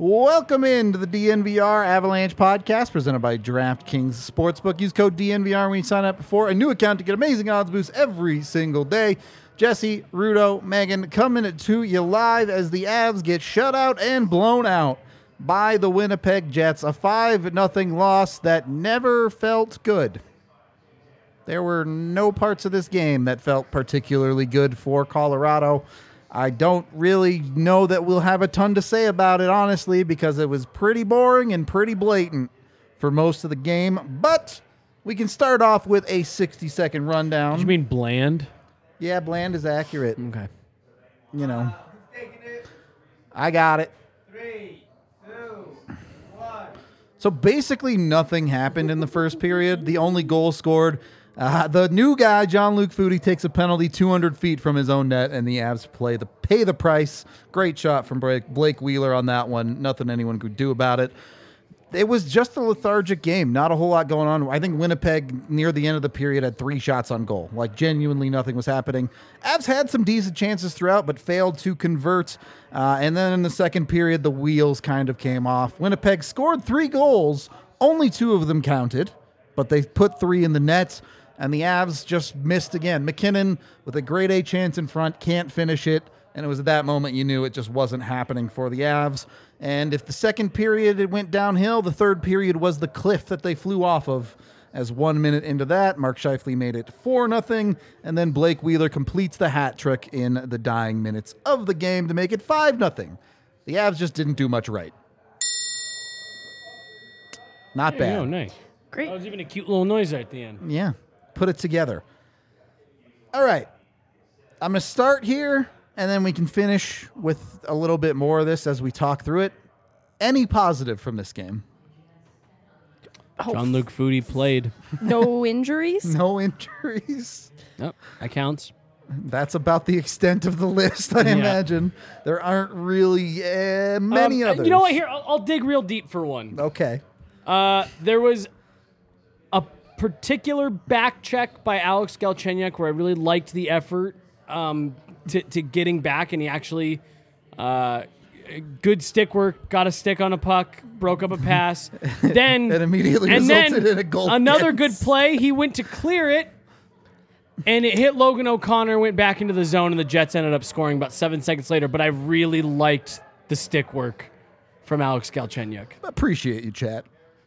Welcome into the DNVR Avalanche podcast presented by DraftKings Sportsbook. Use code DNVR when you sign up for a new account to get amazing odds boosts every single day. Jesse, Rudo, Megan coming to you live as the Avs get shut out and blown out by the Winnipeg Jets. A 5-0 loss that never felt good. There were no parts of this game that felt particularly good for Colorado. I don't really know that we'll have a ton to say about it, honestly, because it was pretty boring and pretty blatant for most of the game. But we can start off with a 60-second rundown. Did you mean bland? Yeah, bland is accurate. Okay. You know. I got it. 3, 2, 1. So basically nothing happened in the first period. The only goal scored, the new guy, Jean-Luc Foudy, takes a penalty 200 feet from his own net, and the Avs pay the price. Great shot from Blake Wheeler on that one. Nothing anyone could do about it. It was just a lethargic game. Not a whole lot going on. I think Winnipeg, near the end of the period, had 3 shots on goal. Like, genuinely nothing was happening. Avs had some decent chances throughout, but failed to convert. And then in the second period, the wheels kind of came off. Winnipeg scored 3 goals. Only 2 of them counted, but they put 3 in the net. And the Avs just missed again. McKinnon, with a grade A chance in front, can't finish it. And it was at that moment you knew it just wasn't happening for the Avs. And if the second period it went downhill, the third period was the cliff that they flew off of. As 1 minute into that, Mark Scheifele made it 4-0. And then Blake Wheeler completes the hat trick in the dying minutes of the game to make it 5-0. The Avs just didn't do much right. Not bad. Oh, nice. Great. That was even a cute little noise right at the end. Yeah, put it together. All right. I'm going to start here, and then we can finish with a little bit more of this as we talk through it. Any positive from this game? Jean-Luc Foudy played. No injuries? No injuries. Yep, that counts. That's about the extent of the list, I imagine. There aren't really many others. You know what? Here, I'll dig real deep for one. Okay. There was a particular back check by Alex Galchenyuk where I really liked the effort to getting back, and he actually good stick work, got a stick on a puck, broke up a pass. Then That immediately resulted in a goal. Another good play. He went to clear it, and it hit Logan O'Connor, went back into the zone, and the Jets ended up scoring about 7 seconds later. But I really liked the stick work from Alex Galchenyuk. Appreciate you, chat.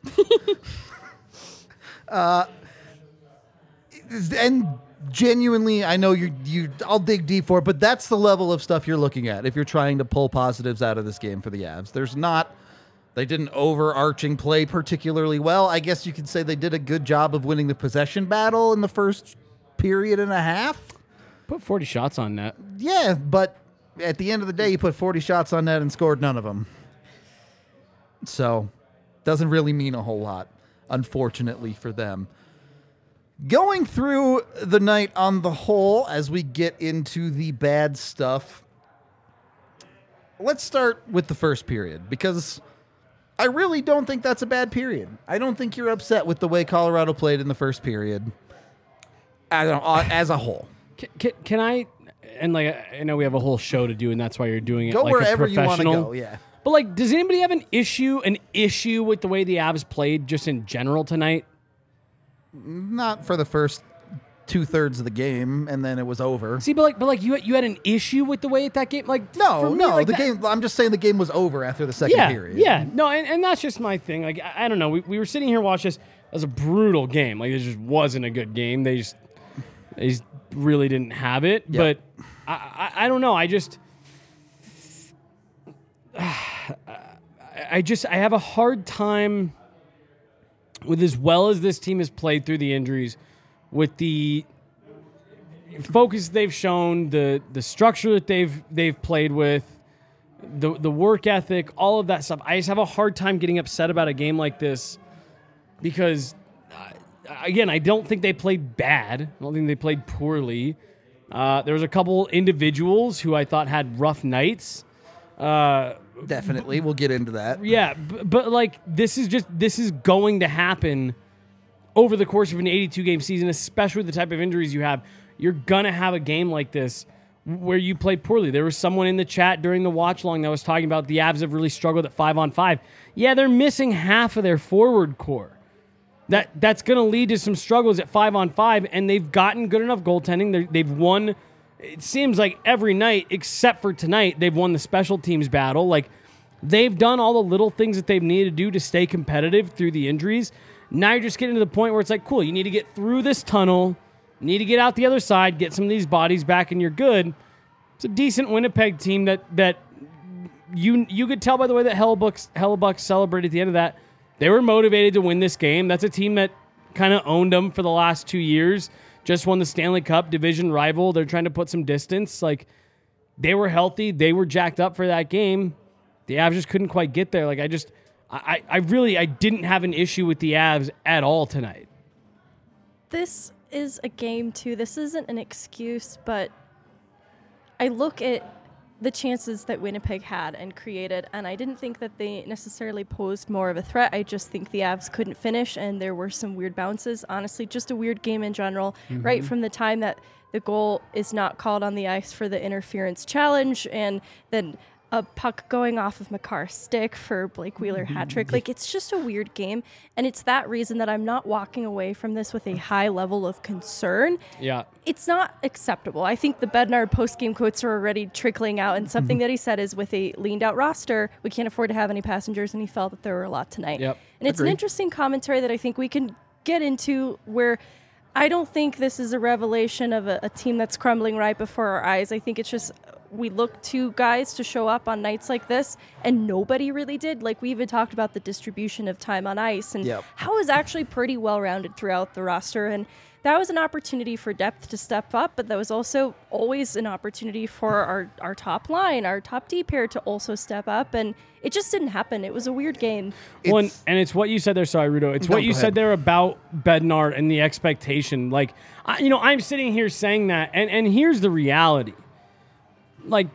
And genuinely, I know I'll dig deep for it, but that's the level of stuff you're looking at if you're trying to pull positives out of this game for the Avs. They didn't overarching play particularly well. I guess you could say they did a good job of winning the possession battle in the first period and a half. Put 40 shots on net. Yeah, but at the end of the day, you put 40 shots on net and scored none of them. So, doesn't really mean a whole lot, unfortunately for them. Going through the night on the whole, as we get into the bad stuff, let's start with the first period, because I really don't think that's a bad period. I don't think you're upset with the way Colorado played in the first period as a whole. Can I, and like I know we have a whole show to do, and that's why you're doing it Go like wherever a you want to professional. go, yeah. But like, does anybody have an issue with the way the Avs played just in general tonight? Not for the first 2/3 of the game, and then it was over. See, but you had an issue with the way that game, like for me, like the that, game. I'm just saying the game was over after the second period. Yeah, no, and that's just my thing. Like I don't know, we were sitting here watching this. It was a brutal game. Like it just wasn't a good game. They just really didn't have it. Yep. But I don't know. I have a hard time with, as well as this team has played through the injuries, with the focus they've shown, the structure that they've played with, the work ethic, all of that stuff. I just have a hard time getting upset about a game like this because, again, I don't think they played bad. I don't think they played poorly. There was a couple individuals who I thought had rough nights. Definitely. We'll get into that. Yeah, but like this is going to happen over the course of an 82-game season, especially with the type of injuries you have. You're going to have a game like this where you play poorly. There was someone in the chat during the watch long that was talking about the Avs have really struggled at 5-on-5. Yeah, they're missing half of their forward core. That's going to lead to some struggles at 5-on-5, and they've gotten good enough goaltending. They've won, it seems like every night, except for tonight, they've won the special teams battle. Like, they've done all the little things that they've needed to do to stay competitive through the injuries. Now you're just getting to the point where it's like, cool, you need to get through this tunnel, need to get out the other side, get some of these bodies back, and you're good. It's a decent Winnipeg team that you could tell by the way that Hellebuck celebrated at the end of that. They were motivated to win this game. That's a team that kind of owned them for the last 2 years. Just won the Stanley Cup, division rival. They're trying to put some distance. Like, they were healthy. They were jacked up for that game. The Avs just couldn't quite get there. Like, I really didn't have an issue with the Avs at all tonight. This is a game, too. This isn't an excuse, but I look at the chances that Winnipeg had and created, and I didn't think that they necessarily posed more of a threat. I just think the Avs couldn't finish, and there were some weird bounces. Honestly, just a weird game in general, right from the time that the goal is not called on the ice for the interference challenge, and then a puck going off of Makar's stick for Blake Wheeler hat trick. Like, it's just a weird game, and it's that reason that I'm not walking away from this with a high level of concern. Yeah. It's not acceptable. I think the Bednar post-game quotes are already trickling out, and something that he said is, with a leaned-out roster, we can't afford to have any passengers, and he felt that there were a lot tonight. Yep. And it's an interesting commentary that I think we can get into, where I don't think this is a revelation of a team that's crumbling right before our eyes. I think it's just we look to guys to show up on nights like this, and nobody really did. Like, we even talked about the distribution of time on ice, and how it was actually pretty well-rounded throughout the roster. And that was an opportunity for depth to step up, but that was also always an opportunity for our top line, our top D pair to also step up, and it just didn't happen. It was a weird game. And it's what you said there, sorry, Rudo. It's what you said there about Bednar and the expectation. Like, I'm sitting here saying that, and here's the reality. Like,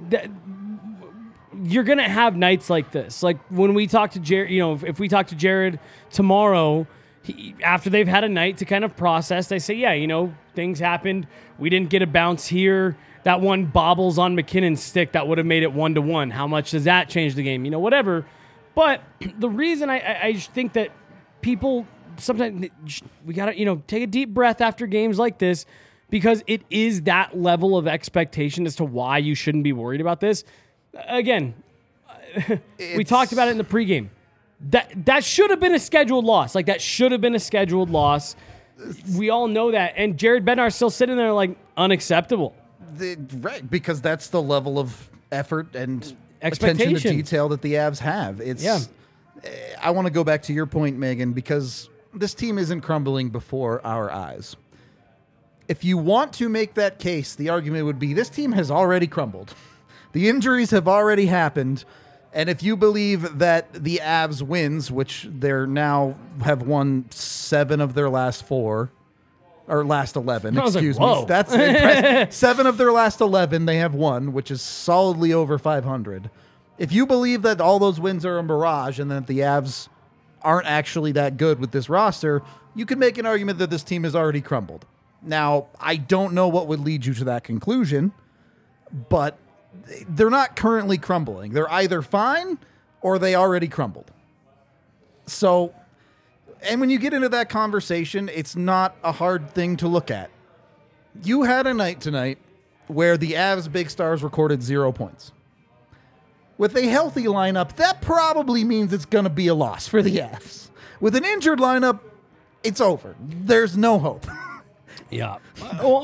you're going to have nights like this. Like, when we talk to Jared, if we talk to Jared tomorrow, after they've had a night to kind of process, they say, things happened. We didn't get a bounce here. That one bobbles on McKinnon's stick that would have made it 1-1. How much does that change the game? Whatever. But the reason I think that people sometimes, we got to, take a deep breath after games like this, because it is that level of expectation as to why you shouldn't be worried about this. Again, we talked about it in the pregame. That should have been a scheduled loss. Like, that should have been a scheduled loss. We all know that. And Jared Bednar's still sitting there like, unacceptable. Right, because that's the level of effort and attention to detail that the Avs have. I want to go back to your point, Megan, because this team isn't crumbling before our eyes. If you want to make that case, the argument would be this team has already crumbled. The injuries have already happened. And if you believe that the Avs wins, which they're now have won 7 of their last 4, or last 11, excuse me. That's impressive. 7 of their last 11 they have won, which is solidly over 500. If you believe that all those wins are a mirage and that the Avs aren't actually that good with this roster, you could make an argument that this team has already crumbled. Now, I don't know what would lead you to that conclusion, but they're not currently crumbling. They're either fine or they already crumbled. So, and when you get into that conversation, it's not a hard thing to look at. You had a night tonight where the Avs big stars recorded 0 points. With a healthy lineup, that probably means it's going to be a loss for the Avs. With an injured lineup, it's over. There's no hope. Yeah. Well,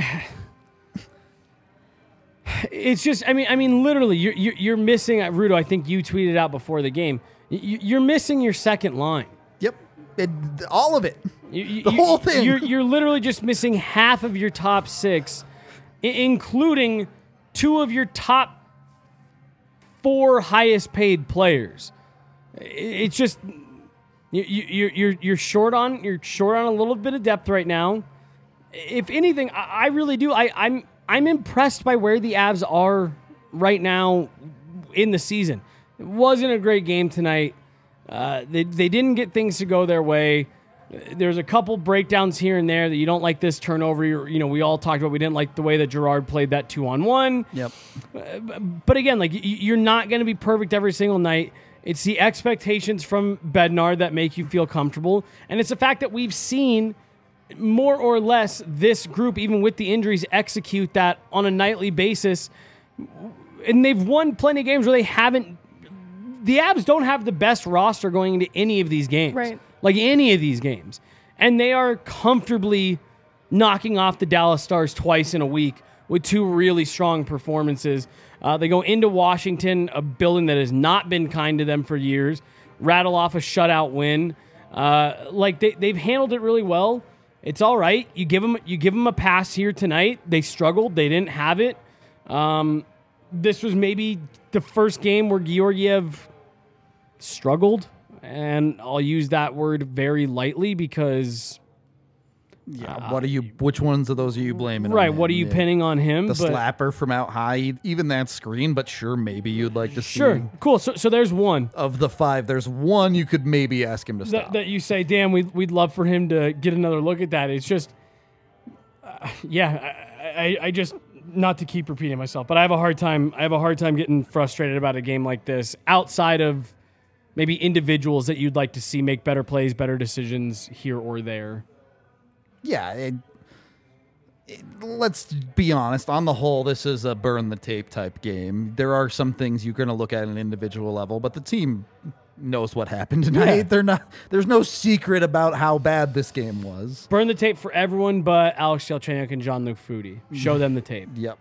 it's just, I mean, literally, you're missing, Rudo, I think you tweeted out before the game, you're missing your second line. Yep. All of it. The whole thing. You're literally just missing half of your top 6, including 2 of your top 4 highest paid players. It's just, you're short on a little bit of depth right now. If anything, I really do. I'm impressed by where the Avs are right now in the season. It wasn't a great game tonight. They didn't get things to go their way. There's a couple breakdowns here and there that you don't like this turnover. We all talked about we didn't like the way that Gerard played that 2-on-1. Yep. But again, like you're not going to be perfect every single night. It's the expectations from Bednar that make you feel comfortable. And it's the fact that we've seen more or less this group, even with the injuries, execute that on a nightly basis. And they've won plenty of games where they haven't. The Avs don't have the best roster going into any of these games. Right. Like any of these games. And they are comfortably knocking off the Dallas Stars twice in a week with two really strong performances. They go into Washington, a building that has not been kind to them for years, rattle off a shutout win. They've handled it really well. It's all right. You give them a pass here tonight. They struggled. They didn't have it. This was maybe the first game where Georgiev struggled. And I'll use that word very lightly because... Yeah, which ones of those are you blaming? Right, on what are you pinning on him? The slapper from out high, even that screen, but sure, maybe you'd like to see. Sure, cool. So there's one. Of the 5, there's one you could maybe ask him to stop. That you say, damn, we'd love for him to get another look at that. It's just... I just... Not to keep repeating myself, but I have a hard time getting frustrated about a game like this outside of maybe individuals that you'd like to see make better plays, better decisions here or there. Yeah, let's be honest. On the whole, this is a burn the tape type game. There are some things you're going to look at an individual level, but the team knows what happened tonight. Yeah. There's no secret about how bad this game was. Burn the tape for everyone but Alex Galchenyuk and Jean-Luc Foudy. Show them the tape. Yep.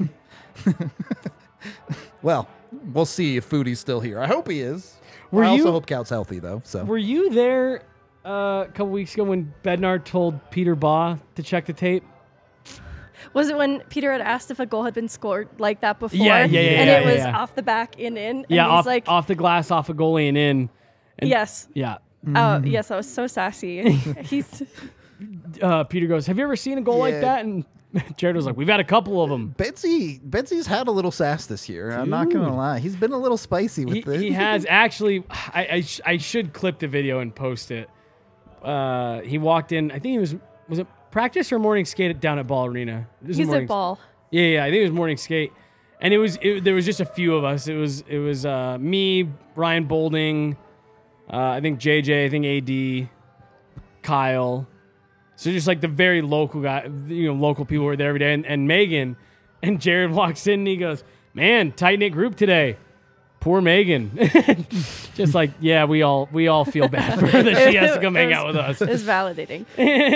Well, we'll see if Foudy's still here. I hope he is. I also hope Cout's healthy, though. So were you there a couple weeks ago when Bednar told Peter Baugh to check the tape? Was it when Peter had asked if a goal had been scored like that before? Yeah. And it was off the back and in. And Yeah, he's off the glass, off a goalie and in. And yes. Yeah. Oh, yes, I was so sassy. He's Peter goes, have you ever seen a goal like Yeah. that? And Jared was like, we've had a couple of them. Betsy's had a little sass this year. I'm not going to lie. He's been a little spicy with this. He has. Actually, I should clip the video and post it. He walked in, I think was it practice or morning skate down at Ball Arena? he's at ball. Yeah, I think it was morning skate. And there was just a few of us. It was me, Ryan Bolding, I think JJ, I think AD, Kyle. So just like the very local guy, local people who are there every day, and Megan. And Jared walks in and he goes, "Man, tight knit group today. Poor Megan." Just like, yeah, we all feel bad for her that she has to come hang out with us. It's validating.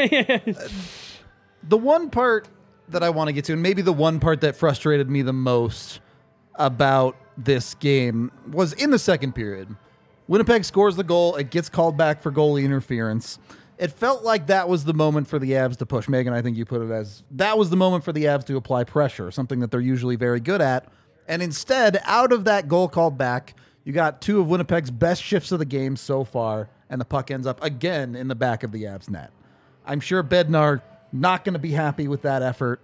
The one part that I want to get to, and maybe the one part that frustrated me the most about this game, was in the second period. Winnipeg scores the goal. It gets called back for goalie interference. It felt like that was the moment for the Avs to push. Megan, I think you put it as that was the moment for the Avs to apply pressure, something that they're usually very good at. And instead, out of that goal called back, you got two of Winnipeg's best shifts of the game so far, and the puck ends up again in the back of the Avs net. I'm sure Bednar not going to be happy with that effort.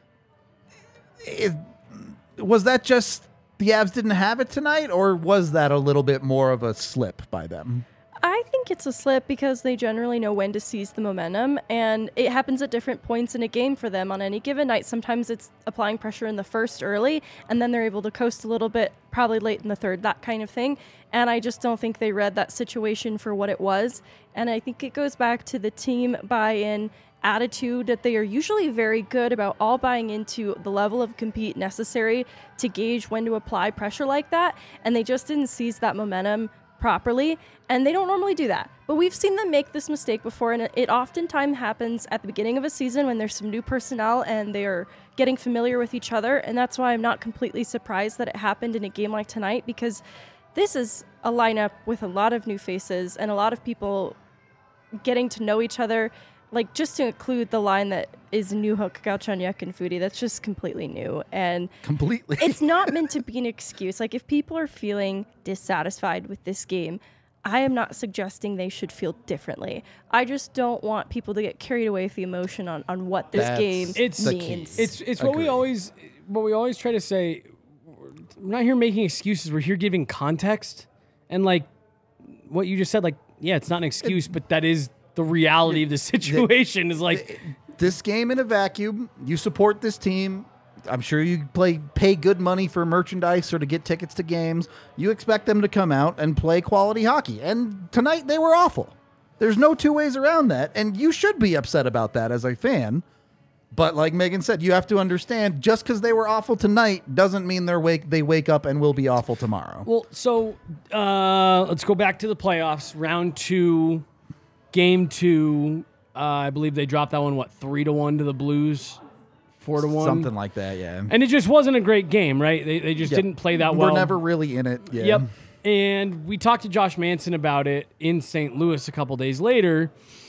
Was that just the Avs didn't have it tonight, or was that a little bit more of a slip by them? I think it's a slip because they generally know when to seize the momentum, and it happens at different points in a game for them on any given night. Sometimes it's applying pressure in the first early, and then they're able to coast a little bit, probably late in the third, that kind of thing. And I just don't think they read that situation for what it was. And I think it goes back to the team buy-in attitude that they are usually very good about all buying into the level of compete necessary to gauge when to apply pressure like that. And they just didn't seize that momentum properly, and they don't normally do that. But we've seen them make this mistake before, and it oftentimes happens at the beginning of a season when there's some new personnel and they are getting familiar with each other, and that's why I'm not completely surprised that it happened in a game like tonight, because this is a lineup with a lot of new faces and a lot of people getting to know each other. Like, just to include the line that is Newhook, Galchenyuk, and Foudy, that's just completely new. And Completely. it's not meant to be an excuse. Like, if people are feeling dissatisfied with this game, I am not suggesting they should feel differently. I just don't want people to get carried away with the emotion on what this game means. It's what we always try to say. We're not here making excuses. We're here giving context. And like what you just said, like, yeah, it's not an excuse, but that is the reality of the situation. Is like this game in a vacuum. You support this team. I'm sure you pay good money for merchandise or to get tickets to games. You expect them to come out and play quality hockey. And tonight they were awful. There's no two ways around that. And you should be upset about that as a fan. But like Megan said, you have to understand, just because they were awful tonight doesn't mean they wake up and will be awful tomorrow. Well, so let's go back to the playoffs. Round 2, game 2. I believe they dropped that one, 3-1 to the Blues? 4-1? Something like that, yeah. And it just wasn't a great game, right? They just didn't play that well. We're never really in it. Yeah. Yep. And we talked to Josh Manson about it in St. Louis a couple days later.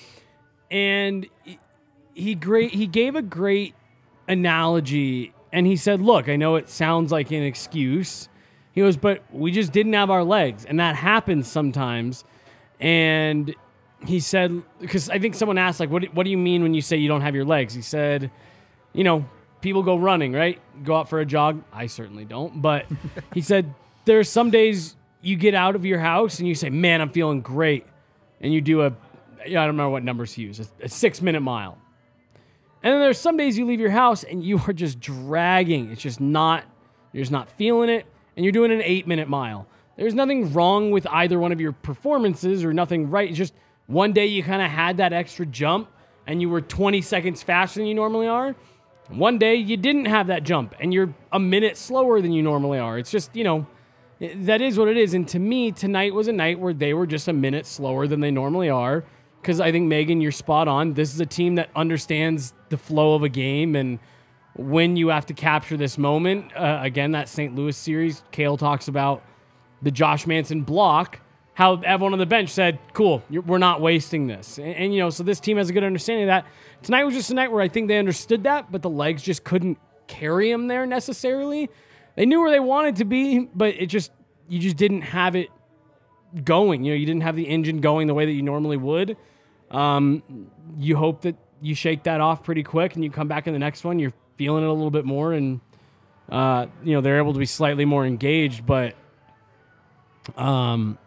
And he gave a great analogy, and he said, look, I know it sounds like an excuse. He goes, but we just didn't have our legs, and that happens sometimes. And he said, because I think someone asked, like, what do you mean when you say you don't have your legs? He said, people go running, right? Go out for a jog. I certainly don't. But he said, there's some days you get out of your house and you say, man, I'm feeling great. And you do I don't remember what numbers he used, a 6-minute mile. And then there's some days you leave your house and you are just dragging. You're just not feeling it. And you're doing an 8-minute mile. There's nothing wrong with either one of your performances or nothing right. It's just one day you kind of had that extra jump and you were 20 seconds faster than you normally are. One day you didn't have that jump and you're a minute slower than you normally are. It's just, that is what it is. And to me, tonight was a night where they were just a minute slower than they normally are. Because I think, Megan, you're spot on. This is a team that understands the flow of a game and when you have to capture this moment. Again, that St. Louis series, Cale talks about the Josh Manson block, how everyone on the bench said, cool, we're not wasting this. And so this team has a good understanding of that. Tonight was just a night where I think they understood that, but the legs just couldn't carry them there necessarily. They knew where they wanted to be, but you just didn't have it going. You didn't have the engine going the way that you normally would. You hope that you shake that off pretty quick and you come back in the next one, you're feeling it a little bit more and, they're able to be slightly more engaged. But, on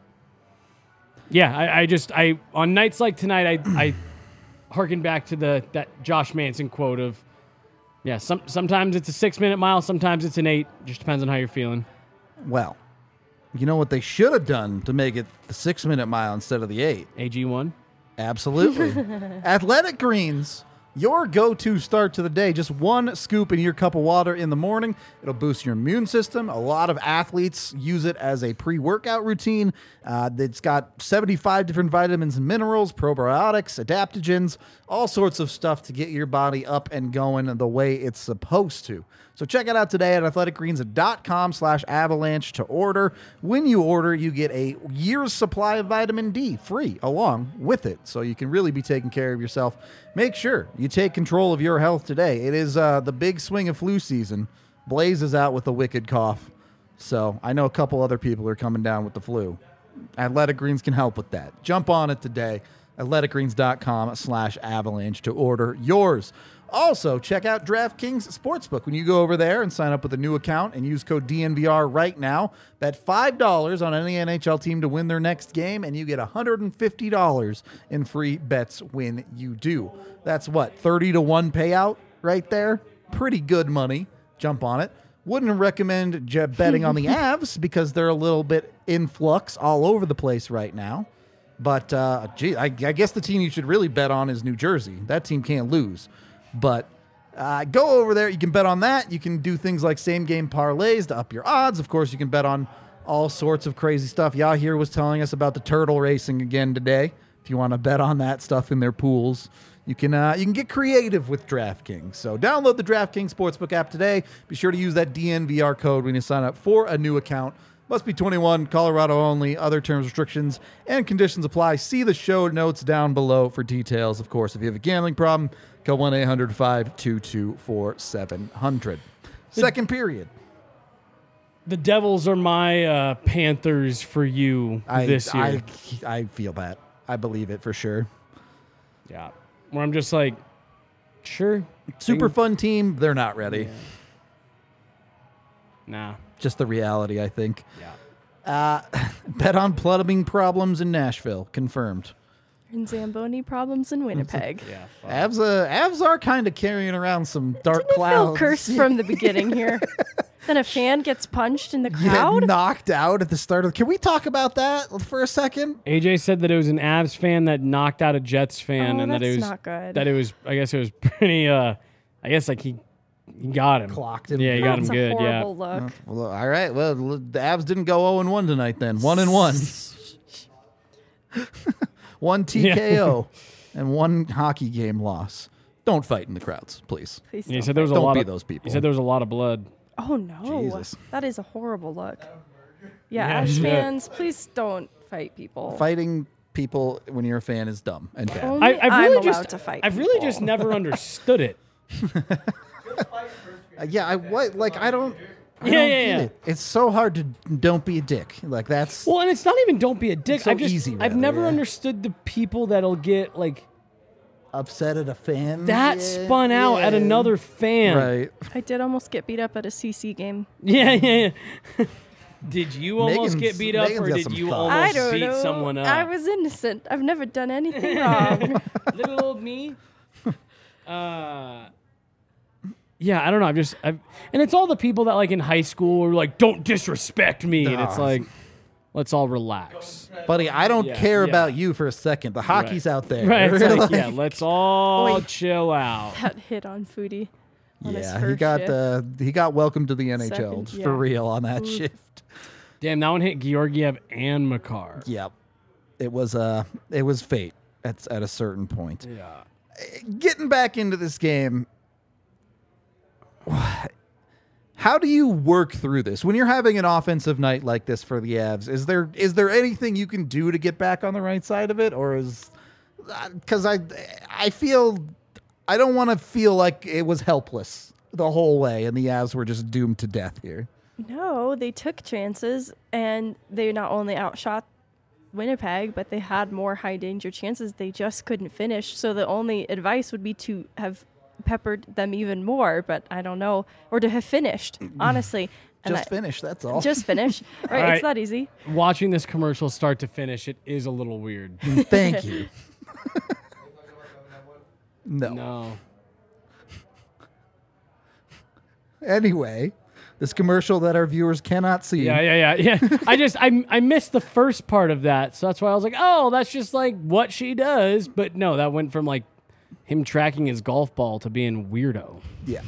nights like tonight, I harken back to that Josh Manson quote of, sometimes it's a 6-minute mile, sometimes it's an 8. Just depends on how you're feeling. Well, you know what they should have done to make it the 6-minute mile instead of the 8? AG1? Absolutely. Athletic Greens, your go-to start to the day. Just one scoop in your cup of water in the morning. It'll boost your immune system. A lot of athletes use it as a pre-workout routine. It's got 75 different vitamins and minerals, probiotics, adaptogens, all sorts of stuff to get your body up and going the way it's supposed to. So check it out today at athleticgreens.com/avalanche to order. When you order, you get a year's supply of vitamin D free along with it. So you can really be taking care of yourself. Make sure you take control of your health today. It is the big swing of flu season. Blaze is out with a wicked cough. So I know a couple other people are coming down with the flu. Athletic Greens can help with that. Jump on it today. athleticgreens.com/avalanche to order yours. Also, check out DraftKings Sportsbook. When you go over there and sign up with a new account and use code DNVR right now, bet $5 on any NHL team to win their next game, and you get $150 in free bets when you do. That's 30-1 payout right there? Pretty good money. Jump on it. Wouldn't recommend betting on the Avs because they're a little bit in flux all over the place right now. But, I guess the team you should really bet on is New Jersey. That team can't lose. But go over there. You can bet on that. You can do things like same-game parlays to up your odds. Of course, you can bet on all sorts of crazy stuff. Yahir was telling us about the turtle racing again today. If you want to bet on that stuff in their pools, you can get creative with DraftKings. So download the DraftKings Sportsbook app today. Be sure to use that DNVR code when you sign up for a new account. Must be 21, Colorado only. Other terms, restrictions, and conditions apply. See the show notes down below for details. Of course, if you have a gambling problem, call 1-800-522-4700. Second period. The Devils are my Panthers for you this year. I feel that. I believe it for sure. Yeah. Where I'm just like, sure. Super fun team. They're not ready. Yeah. Nah. Just the reality, I think. Yeah. Bet on plumbing problems in Nashville. Confirmed. And Zamboni problems in Winnipeg. Yeah. fuck. Avs are kind of carrying around some dark Didn't it feel clouds. cursed from the beginning here? Then a fan gets punched in the Get crowd. knocked out at the start of. Can we talk about that for a second? AJ said that it was an Avs fan that knocked out a Jets fan, Oh, and that it that's was not good. That it was. I guess it was pretty. I guess like he got him. Clocked him. Yeah, he got him That's a good. Yeah. horrible look. Well, all right. Well, the Avs didn't go 0-1 tonight then. 1-1. One TKO and one hockey game loss. Don't fight in the crowds, please. Please Yeah, he don't said there was a Don't lot be of those people. He said there was a lot of blood. Oh no, Jesus. that is a horrible look. Yeah, Yeah, Avs shit. fans, please don't fight people. Fighting people when you're a fan is dumb and bad. Only I've I'm really allowed just to fight. I've really people. just never understood it. Yeah, I don't. I Yeah, don't yeah, get yeah. it. It's so hard to don't be a dick. Like that's Well, and it's not even don't be a dick. So I've just easy, I've rather, never yeah. understood the people that'll get like upset at a fan. that Yeah, spun out at yeah. another fan. Right. I did almost get beat up at a CC game. Yeah, yeah, yeah. Did you almost Megan's- get beat up, Megan's or got did some you thoughts. I almost don't beat know. someone up? I was innocent. I've never done anything wrong. Little old me. Yeah, I don't know. And it's all the people that like in high school were like, "Don't disrespect me," and it's Ah. like, let's all relax. Buddy, I don't Yeah, care yeah. about you for a second. The hockey's out there. Right? It's like, Like, yeah, let's all Oi. chill out. That hit on Foodie. On his yeah, first shift. he got welcome to the NHL Second, for yeah. real on that shift. Damn, that one hit Georgiev and Makar. Yep. It was fate at a certain point. Yeah. Getting back into this game, how do you work through this when you're having an offensive night like this for the Avs? Is there anything you can do to get back on the right side of it, or is because I feel I don't want to feel like it was helpless the whole way and the Avs were just doomed to death here. No, they took chances, and they not only outshot Winnipeg, but they had more high danger chances. They just couldn't finish. So the only advice would be to have peppered them even more, but I don't know, or to have finished, honestly. And Just finish, that's all. Just finish. Right, All right. it's that easy. Watching this commercial start to finish, it is a little weird. Thank you. No. No. Anyway, this commercial that our viewers cannot see. Yeah. I missed the first part of that, so that's why I was like, oh, that's just like what she does. But no, that went from like him tracking his golf ball to being weirdo. Yeah.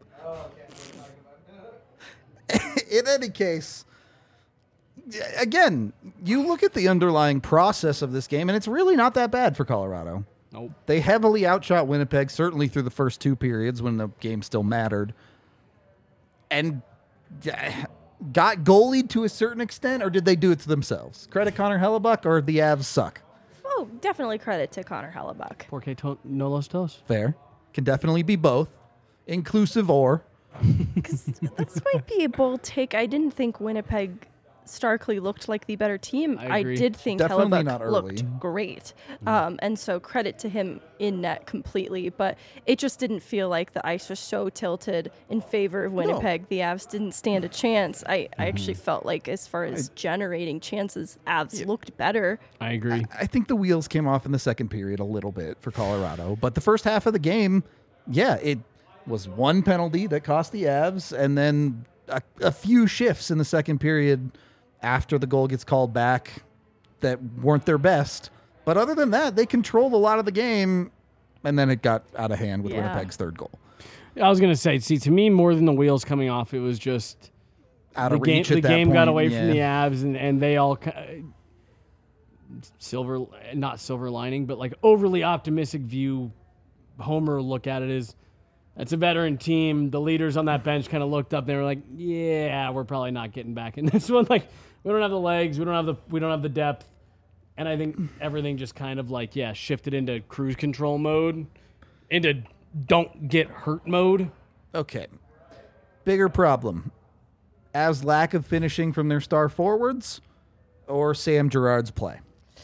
In any case, again, you look at the underlying process of this game, and it's really not that bad for Colorado. Nope. They heavily outshot Winnipeg, certainly through the first two periods when the game still mattered, and got goalied to a certain extent, or did they do it to themselves? Credit Connor Hellebuck, or the Avs suck? Oh, definitely credit to Connor Hellebuck. Porque no los dos. Fair. Can definitely be both. Inclusive or. This might be a bold take. I didn't think Winnipeg starkly looked like the better team. I agree. did think Definitely not Hellebuck early. looked great. And so credit to him in net completely. But it just didn't feel like the ice was so tilted in favor of Winnipeg. The Avs didn't stand a chance. I actually felt like as far as generating chances, Avs looked better. I agree. I think the wheels came off in the second period a little bit for Colorado, but the first half of the game, yeah, it was one penalty that cost the Avs, and then a few shifts in the second period after the goal gets called back that weren't their best. But other than that, they controlled a lot of the game, and then it got out of hand with Yeah. Winnipeg's third goal. I was gonna say, see, to me, more than the wheels coming off, it was just Out the of game. reach The at that game got point, away yeah. from the Avs, and they all not silver lining, but like overly optimistic view. Homer look at it as that's a veteran team. The leaders on that bench kind of looked up. They were like, "Yeah, we're probably not getting back in this one. Like, we don't have the legs. We don't have the depth." And I think everything just kind of like shifted into cruise control mode, into don't get hurt mode. Okay. Bigger problem. Avs' lack of finishing from their star forwards or Sam Girard's play?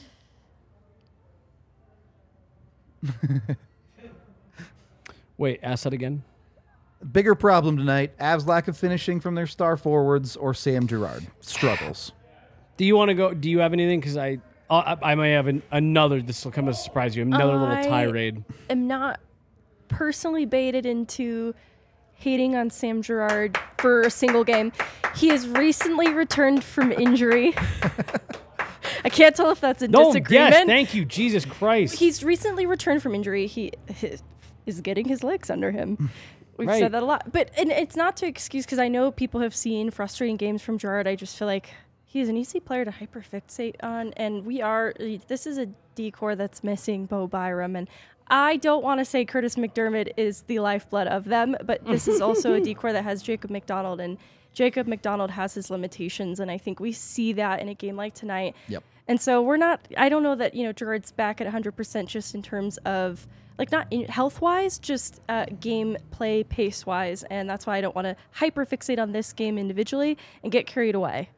Wait, ask that again. Bigger problem tonight. Avs' lack of finishing from their star forwards or Sam Girard struggles. Do you want to go? Do you have anything? Because I might have another. This will come as a surprise to you. Another little tirade. I'm not personally baited into hating on Sam Girard for a single game. He has recently returned from injury. I can't tell if that's a disagreement. Yes, thank you, Jesus Christ. He's recently returned from injury. He is getting his legs under him. We've Right. said that a lot. But and it's not to excuse, because I know people have seen frustrating games from Girard. I just feel like he's an easy player to hyperfixate on. And this is a decor that's missing Bo Byram. And I don't want to say Curtis McDermott is the lifeblood of them, but this is also a decor that has Jacob McDonald, and Jacob McDonald has his limitations, and I think we see that in a game like tonight. Yep. And so I don't know that, Girard's back at 100% just in terms of, like, not health-wise, just game play pace-wise, and that's why I don't want to hyper-fixate on this game individually and get carried away.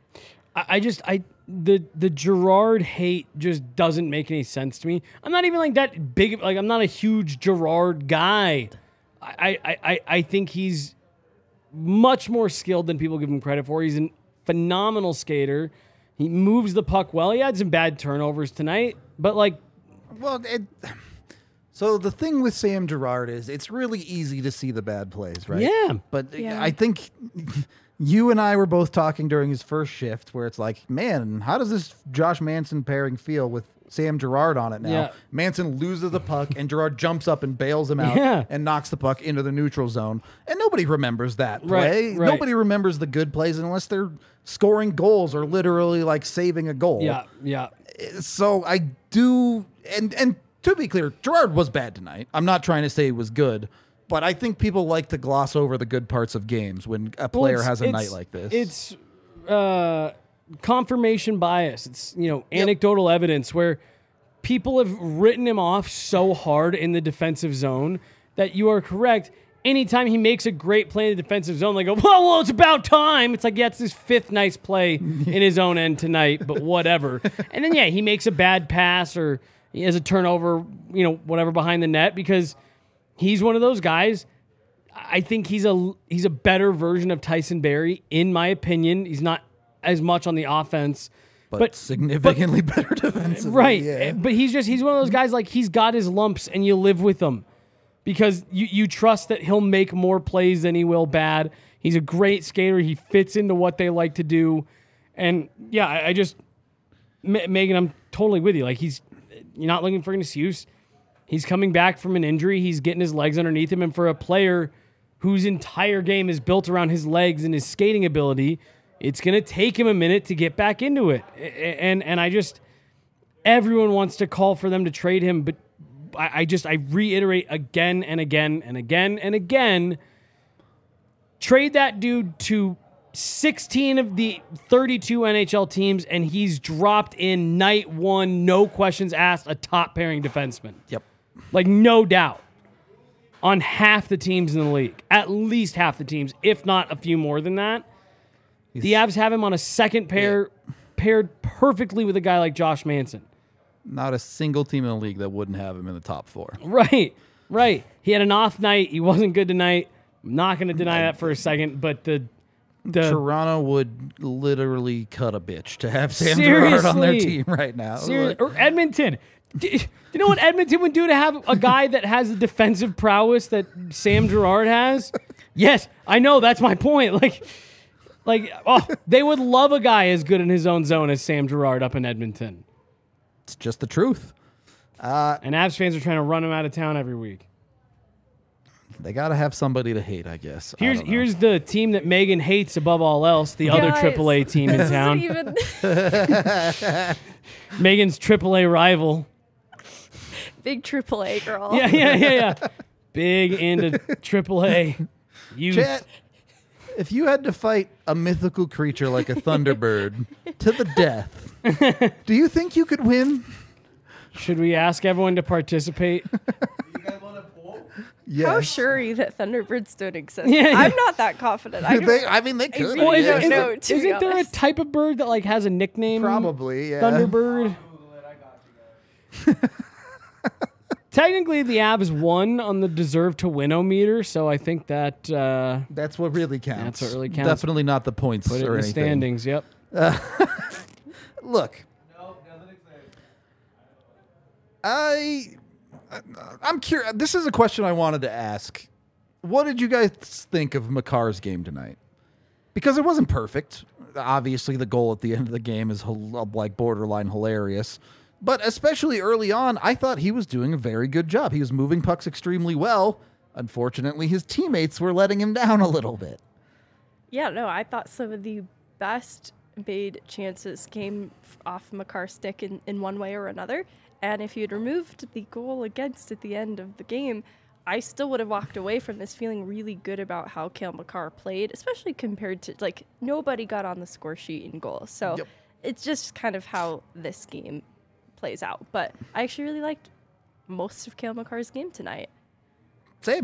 The Girard hate just doesn't make any sense to me. I'm not even like that big. Like, I'm not a huge Girard guy. I think he's much more skilled than people give him credit for. He's a phenomenal skater. He moves the puck well. He had some bad turnovers tonight, but So the thing with Sam Girard is it's really easy to see the bad plays, right? Yeah. But Yeah. I think you and I were both talking during his first shift where it's like, man, how does this Josh Manson pairing feel with Sam Girard on it now? Yeah. Manson loses the puck and Girard jumps up and bails him out Yeah. and knocks the puck into the neutral zone. And nobody remembers that play. Right. Nobody remembers the good plays unless they're scoring goals or literally like saving a goal. yeah. So I do, and to be clear, Girard was bad tonight. I'm not trying to say he was good, but I think people like to gloss over the good parts of games when a player has a night like this. It's confirmation bias. It's anecdotal evidence where people have written him off so hard in the defensive zone that you are correct. Anytime he makes a great play in the defensive zone, they go, well, it's about time. It's like, yeah, it's his fifth nice play in his own end tonight, but whatever. And then, he makes a bad pass or he has a turnover, whatever behind the net, because he's one of those guys. I think he's a better version of Tyson Barrie, in my opinion. He's not as much on the offense, but significantly better defensively. right? Yeah. But he's one of those guys, like, he's got his lumps and you live with them because you trust that he'll make more plays than he will bad. He's a great skater. He fits into what they like to do, and I just Megan, I'm totally with you. Like, you're not looking for an excuse. He's coming back from an injury. He's getting his legs underneath him. And for a player whose entire game is built around his legs and his skating ability, it's going to take him a minute to get back into it. And everyone wants to call for them to trade him. But I reiterate again and again and again and again, trade that dude to 16 of the 32 NHL teams, and he's dropped in night one, no questions asked, a top pairing defenseman. Yep. Like, no doubt. On half the teams in the league. At least half the teams, if not a few more than that. The Avs have him on a second pair, paired perfectly with a guy like Josh Manson. Not a single team in the league that wouldn't have him in the top four. Right. He had an off night. He wasn't good tonight. I'm not going to deny that for a second, but the Toronto would literally cut a bitch to have Sam Girard on their team right now. Or Edmonton. Do you know what Edmonton would do to have a guy that has the defensive prowess that Sam Girard has? Yes, I know. That's my point. They would love a guy as good in his own zone as Sam Girard up in Edmonton. It's just the truth. And Avs fans are trying to run him out of town every week. They got to have somebody to hate, I guess. Here's the team that Megan hates above all else, the other Guys, AAA team in this town. isn't even Megan's AAA rival. big AAA girl. Yeah. Big into AAA. Chat, if you had to fight a mythical creature like a Thunderbird to the death, do you think you could win? Should we ask everyone to participate? You guys want to poll? Yes. How sure are you that Thunderbirds don't exist? Yeah. I'm not that confident. I they could. really Well, don't isn't, know, to be isn't there a honest. type of bird that like has a nickname? Probably, yeah. Thunderbird. Google it. I got you guys. Technically, the Avs won on the deserve to win-o-meter, so I think that That's what really counts. That's what really counts. Definitely not the points put it or in the anything. standings. Yep. Look, Nope, nothing exciting. I'm curious. This is a question I wanted to ask. What did you guys think of Makar's game tonight? Because it wasn't perfect. Obviously, the goal at the end of the game is like borderline hilarious. But especially early on, I thought he was doing a very good job. He was moving pucks extremely well. Unfortunately, his teammates were letting him down a little bit. Yeah, no, I thought some of the best made chances came off Makar's stick in one way or another. And if you'd removed the goal against at the end of the game, I still would have walked away from this feeling really good about how Cale Makar played, especially compared to, like, nobody got on the score sheet in goal. So it's just kind of how this game plays out. But I actually really liked most of Cale Makar's game tonight. Same.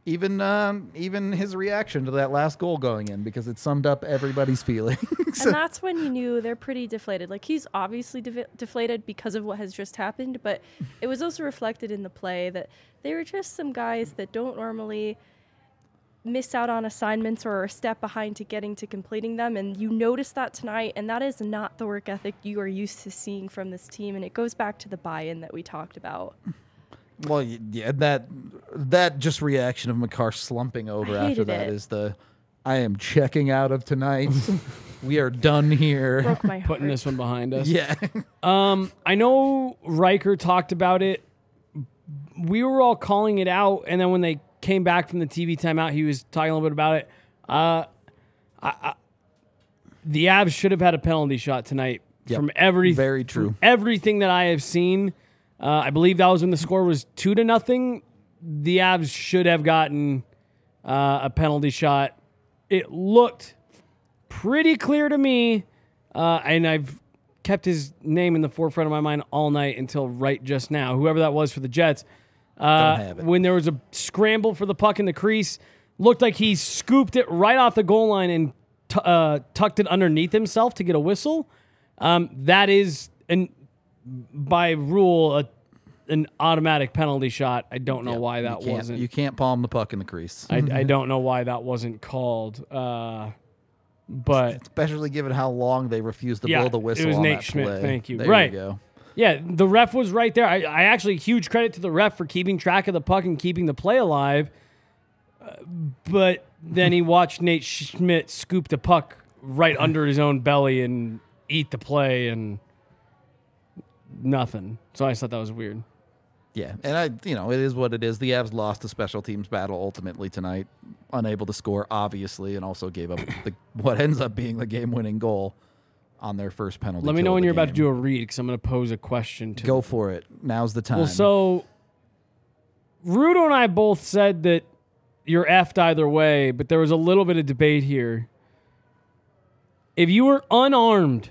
Even his reaction to that last goal going in, because it summed up everybody's feelings. And that's when you knew they're pretty deflated. Like, he's obviously deflated because of what has just happened, but it was also reflected in the play that they were just some guys that don't normally miss out on assignments or are a step behind to getting to completing them. And you noticed that tonight, and that is not the work ethic you are used to seeing from this team. And it goes back to the buy-in that we talked about. Well, yeah, that just reaction of Makar slumping over after that is I am checking out of tonight. We are done here. Broke my heart. Putting this one behind us. Yeah. I know Riker talked about it. We were all calling it out, and then when they came back from the TV timeout, he was talking a little bit about it. The Avs should have had a penalty shot tonight. Yep. From Very true. From everything that I have seen. I believe that was when the score was 2-0. The Avs should have gotten a penalty shot. It looked pretty clear to me, and I've kept his name in the forefront of my mind all night until right just now. Whoever that was for the Jets. Don't have it. When there was a scramble for the puck in the crease, looked like he scooped it right off the goal line and tucked it underneath himself to get a whistle. That is by rule an automatic penalty shot. I don't know why that wasn't. You can't palm the puck in the crease. I don't know why that wasn't called. But especially given how long they refused to blow the whistle. It was on Nate that Schmidt. play. Thank you. There right. You go. Yeah, the ref was right there. I actually huge credit to the ref for keeping track of the puck and keeping the play alive. But then he watched Nate Schmidt scoop the puck right under his own belly and eat the play and nothing. So I just thought that was weird. Yeah, and it is what it is. The Avs lost the special teams battle ultimately tonight, unable to score, obviously, and also gave up what ends up being the game-winning goal on their first penalty. Let me know when you're about to do a read, because I'm going to pose a question to Go for it. Now's the time. Well, so Rudo and I both said that you're effed either way, but there was a little bit of debate here. If you were unarmed,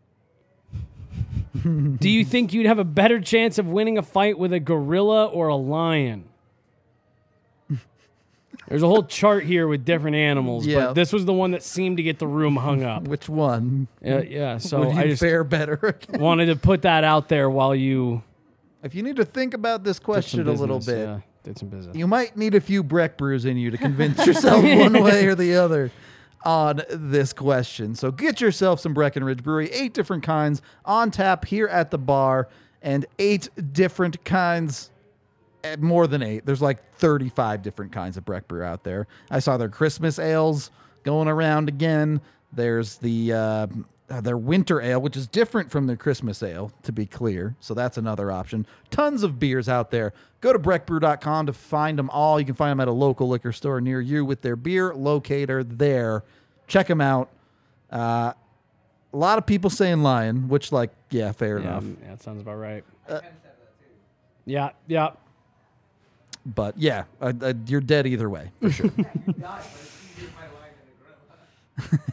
do you think you'd have a better chance of winning a fight with a gorilla or a lion? There's a whole chart here with different animals, but this was the one that seemed to get the room hung up. Which one? Yeah, so Would you I just fare better? wanted to put that out there while you If you need to think about this question a little bit, yeah, did some business. you might need a few Breck brews in you to convince yourself one way or the other on this question. So get yourself some Breckenridge Brewery, 8 different kinds on tap here at the bar, and 8 different kinds, more than 8. There's like 35 different kinds of Breck brew out there. I saw their Christmas ales going around again. There's their winter ale, which is different from their Christmas ale, to be clear. So that's another option. Tons of beers out there. Go to breckbrew.com to find them all. You can find them at a local liquor store near you with their beer locator there. Check them out. A lot of people saying lion, which, fair enough. Yeah, that sounds about right. Yeah. But, yeah, you're dead either way, for sure. You died, but it's easier to find a lion than a gorilla.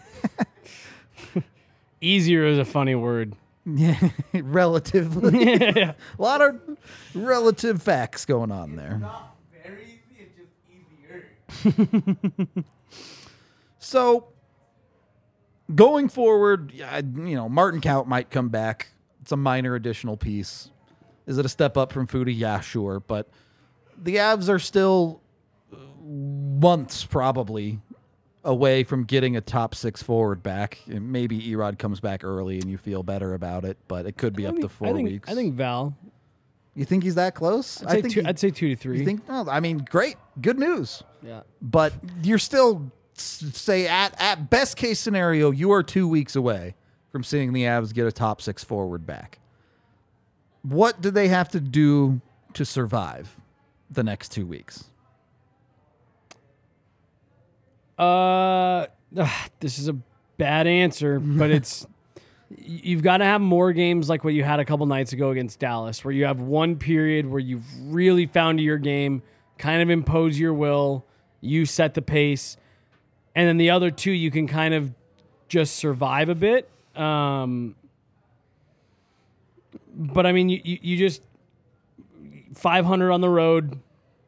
Easier is a funny word. Yeah, relatively. A lot of relative facts going on there. Not very easy, it's just easier. So, going forward, Martin Kaut might come back. It's a minor additional piece. Is it a step up from Foodie? Yeah, sure. But the Avs are still months probably away from getting a top 6 forward back. And maybe Erod comes back early and you feel better about it, but it could be up to 4 weeks. I think Val You think he's that close? I'd say 2 to 3. You think? Oh, I mean, great, good news. Yeah. But you're still say at best case scenario, you are 2 weeks away from seeing the Avs get a top 6 forward back. What do they have to do to survive the next 2 weeks? This is a bad answer, but you've got to have more games like what you had a couple nights ago against Dallas, where you have one period where you've really found your game, kind of impose your will, you set the pace, and then the other two you can kind of just survive a bit. But I mean, you just 500 on the road,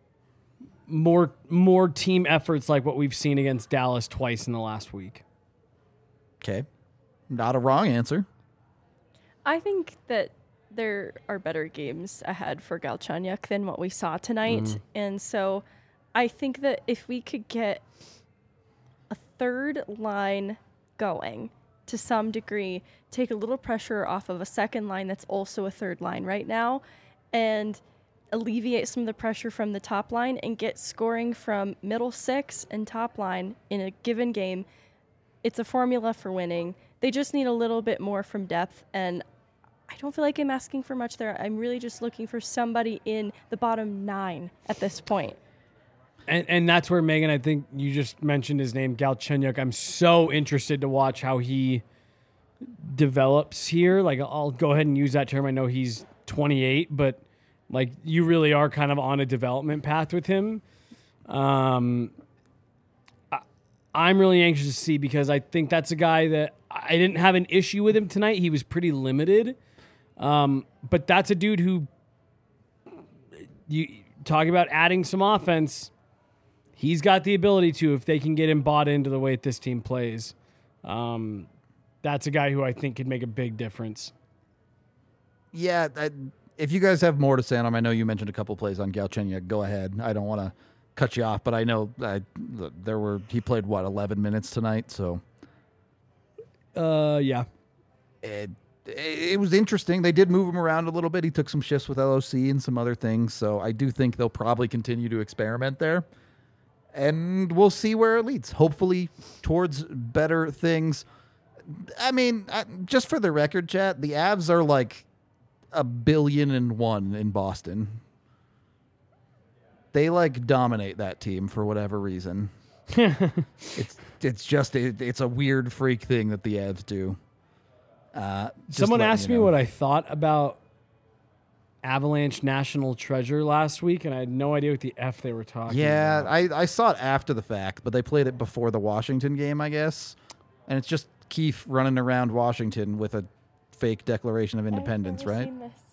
more team efforts like what we've seen against Dallas twice in the last week. Okay. Not a wrong answer. I think that there are better games ahead for Galchenyuk than what we saw tonight. And so I think that if we could get a third line going to some degree, take a little pressure off of a second line that's also a third line right now, and alleviate some of the pressure from the top line and get scoring from middle six and top line in a given game, it's a formula for winning. They just need a little bit more from depth, and I don't feel like I'm asking for much there. I'm really just looking for somebody in the bottom 9 at this point. And that's where, Megan, I think you just mentioned his name, Galchenyuk. I'm so interested to watch how he develops here. Like, I'll go ahead and use that term. I know he's 28, but like, you really are kind of on a development path with him. I'm really anxious to see, because I think that's a guy that I didn't have an issue with him tonight. He was pretty limited. But that's a dude who, you talk about adding some offense, he's got the ability to, if they can get him bought into the way that this team plays. That's a guy who I think could make a big difference. Yeah, if you guys have more to say on him, I know you mentioned a couple plays on Galchenyuk. Go ahead. I don't want to cut you off, but I know he played 11 minutes tonight, so yeah. It was interesting. They did move him around a little bit. He took some shifts with LOC and some other things, so I do think they'll probably continue to experiment there. And we'll see where it leads. Hopefully towards better things. I mean, just for the record, chat, the Avs are like $1 billion in Boston. They like dominate that team for whatever reason. It's a weird freak thing that the Avs do. Someone asked me what I thought about Avalanche National Treasure last week, and I had no idea what the F they were talking about. Yeah, I saw it after the fact, but they played it before the Washington game, I guess. And it's just Keefe running around Washington with a fake Declaration of Independence, right?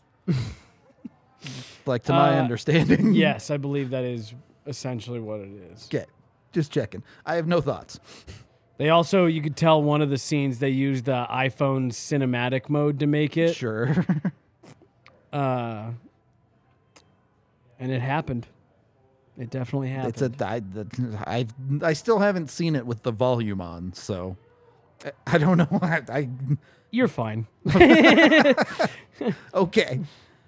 Like, to my understanding. Yes, I believe that is essentially what it is. Okay, just checking. I have no thoughts. They also, you could tell one of the scenes, they used the iPhone cinematic mode to make it. Sure. And it happened. It definitely happened. I still haven't seen it with the volume on, so I don't know. You're fine. Okay.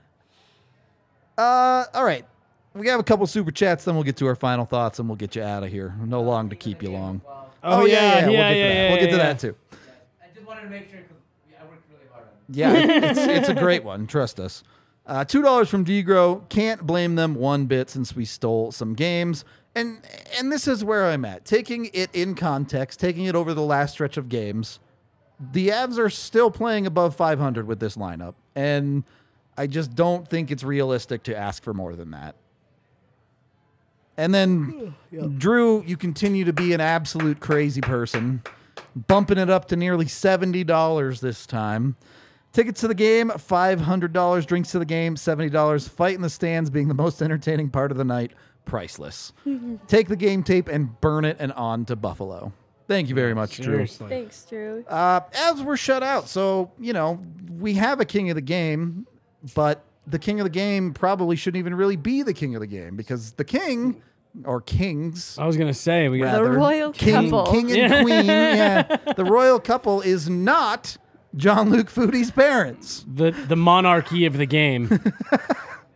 All right. We have a couple super chats, then we'll get to our final thoughts, and we'll get you out of here. No long to keep you long. Oh, yeah. We'll get to that too. I just wanted to make sure, because I worked really hard on it. Yeah, it's a great one. Trust us. $2 from Degro. Can't blame them one bit since we stole some games. And this is where I'm at. Taking it in context, taking it over the last stretch of games, the Avs are still playing above 500 with this lineup. And I just don't think it's realistic to ask for more than that. And then, Drew, you continue to be an absolute crazy person, bumping it up to nearly $70 this time. Tickets to the game, $500. Drinks to the game, $70. Fight in the stands being the most entertaining part of the night, priceless. Take the game tape and burn it and on to Buffalo. Thank you very much, Seriously. Thanks, Drew. Drew. Avs were shut out, so, we have a king of the game, but the king of the game probably shouldn't even really be the king of the game, because the king, or kings, I was going to say, we got The royal couple. King and queen, the royal couple is not Jean-Luc Foodie's parents. the monarchy of the game.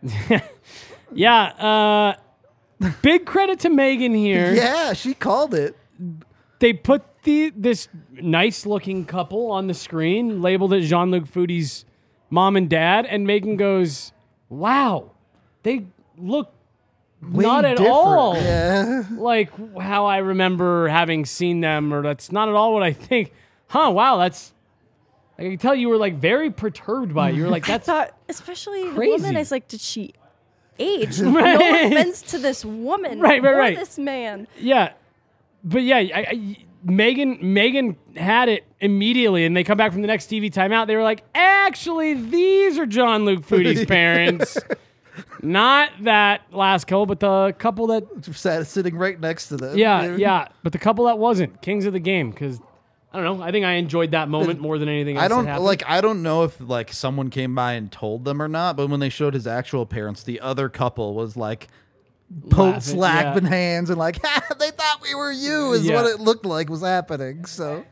Yeah. Big credit to Megan here. Yeah, she called it. They put this nice looking couple on the screen, labeled it Jean-Luc Foodie's mom and dad, and Megan goes, "Wow, they look Way not at different. all Yeah. like how I remember having seen them, or that's not at all what I think." Huh? Wow, that's. I can tell you were like very perturbed by it. You were like, I "That's thought, especially the crazy. woman, I was like, did she age? Right. No offense to this woman Right, or right. this man. yeah." But yeah, Megan had it immediately, and they come back from the next TV timeout. They were like, "Actually, these are Jean-Luc Foodie's parents, not that last couple, but the couple that Sitting right next to them. yeah, but the couple that wasn't Kings of the Game." Because I don't know, I think I enjoyed that moment more than anything else. I don't that happened. like. I don't know if like someone came by and told them or not. But when they showed his actual parents, the other couple was like, Laughing, slapping hands and like, ha, they thought we were you. Is Yeah. what it looked like was happening. So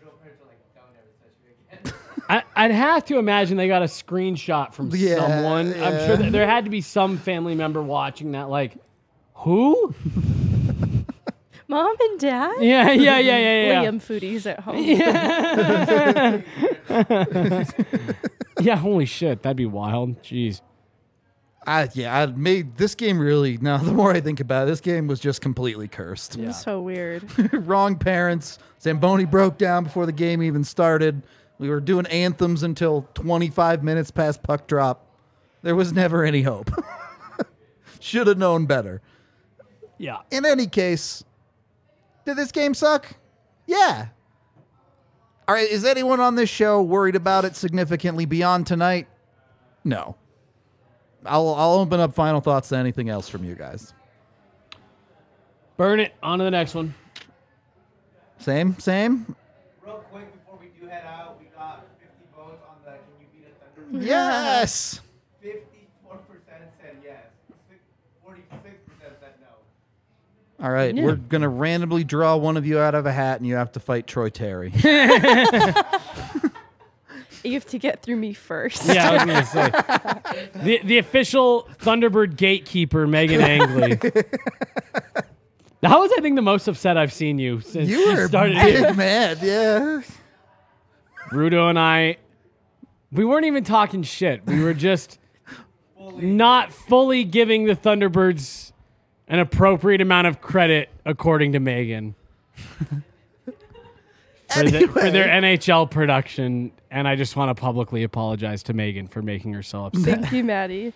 I'd have to imagine they got a screenshot from Yeah, someone. I'm yeah. sure that there had to be some family member watching that. Like, who? Mom and dad? Yeah. Liam Foodie's at home. Yeah, holy shit, that'd be wild. Jeez. I made this game really. Now the more I think about it, this game was just completely cursed. Yeah. So weird. Wrong parents. Zamboni broke down before the game even started. We were doing anthems until 25 minutes past puck drop. There was never any hope. Should have known better. Yeah. In any case, did this game suck? Yeah. All right, is anyone on this show worried about it significantly beyond tonight? No. I'll open up final thoughts to anything else from you guys. Burn it. On to the next one. Same? Real quick before we do head out, we got 50 votes on the Can You Beat a Thunder? Yes. 54% said yes. 46% said no. All right, we're going to randomly draw one of you out of a hat, and you have to fight Troy Terry. You have to get through me first. Yeah, I was going to say. The official Thunderbird gatekeeper, Megan Angley. That was, I think, the most upset I've seen you since You you were started big here. mad, yeah. Rudo and I, we weren't even talking shit. We were just not fully giving the Thunderbirds an appropriate amount of credit, according to Megan, for their NHL production. And I just want to publicly apologize to Megan for making her so upset. Thank you, Maddie.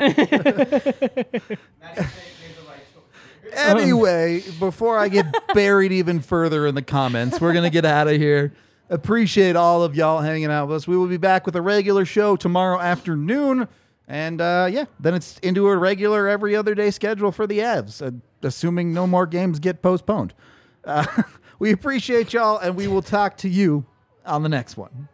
Anyway, before I get buried even further in the comments, we're going to get out of here. Appreciate all of y'all hanging out with us. We will be back with a regular show tomorrow afternoon. And then it's into a regular every other day schedule for the Avs, assuming no more games get postponed. We appreciate y'all, and we will talk to you on the next one.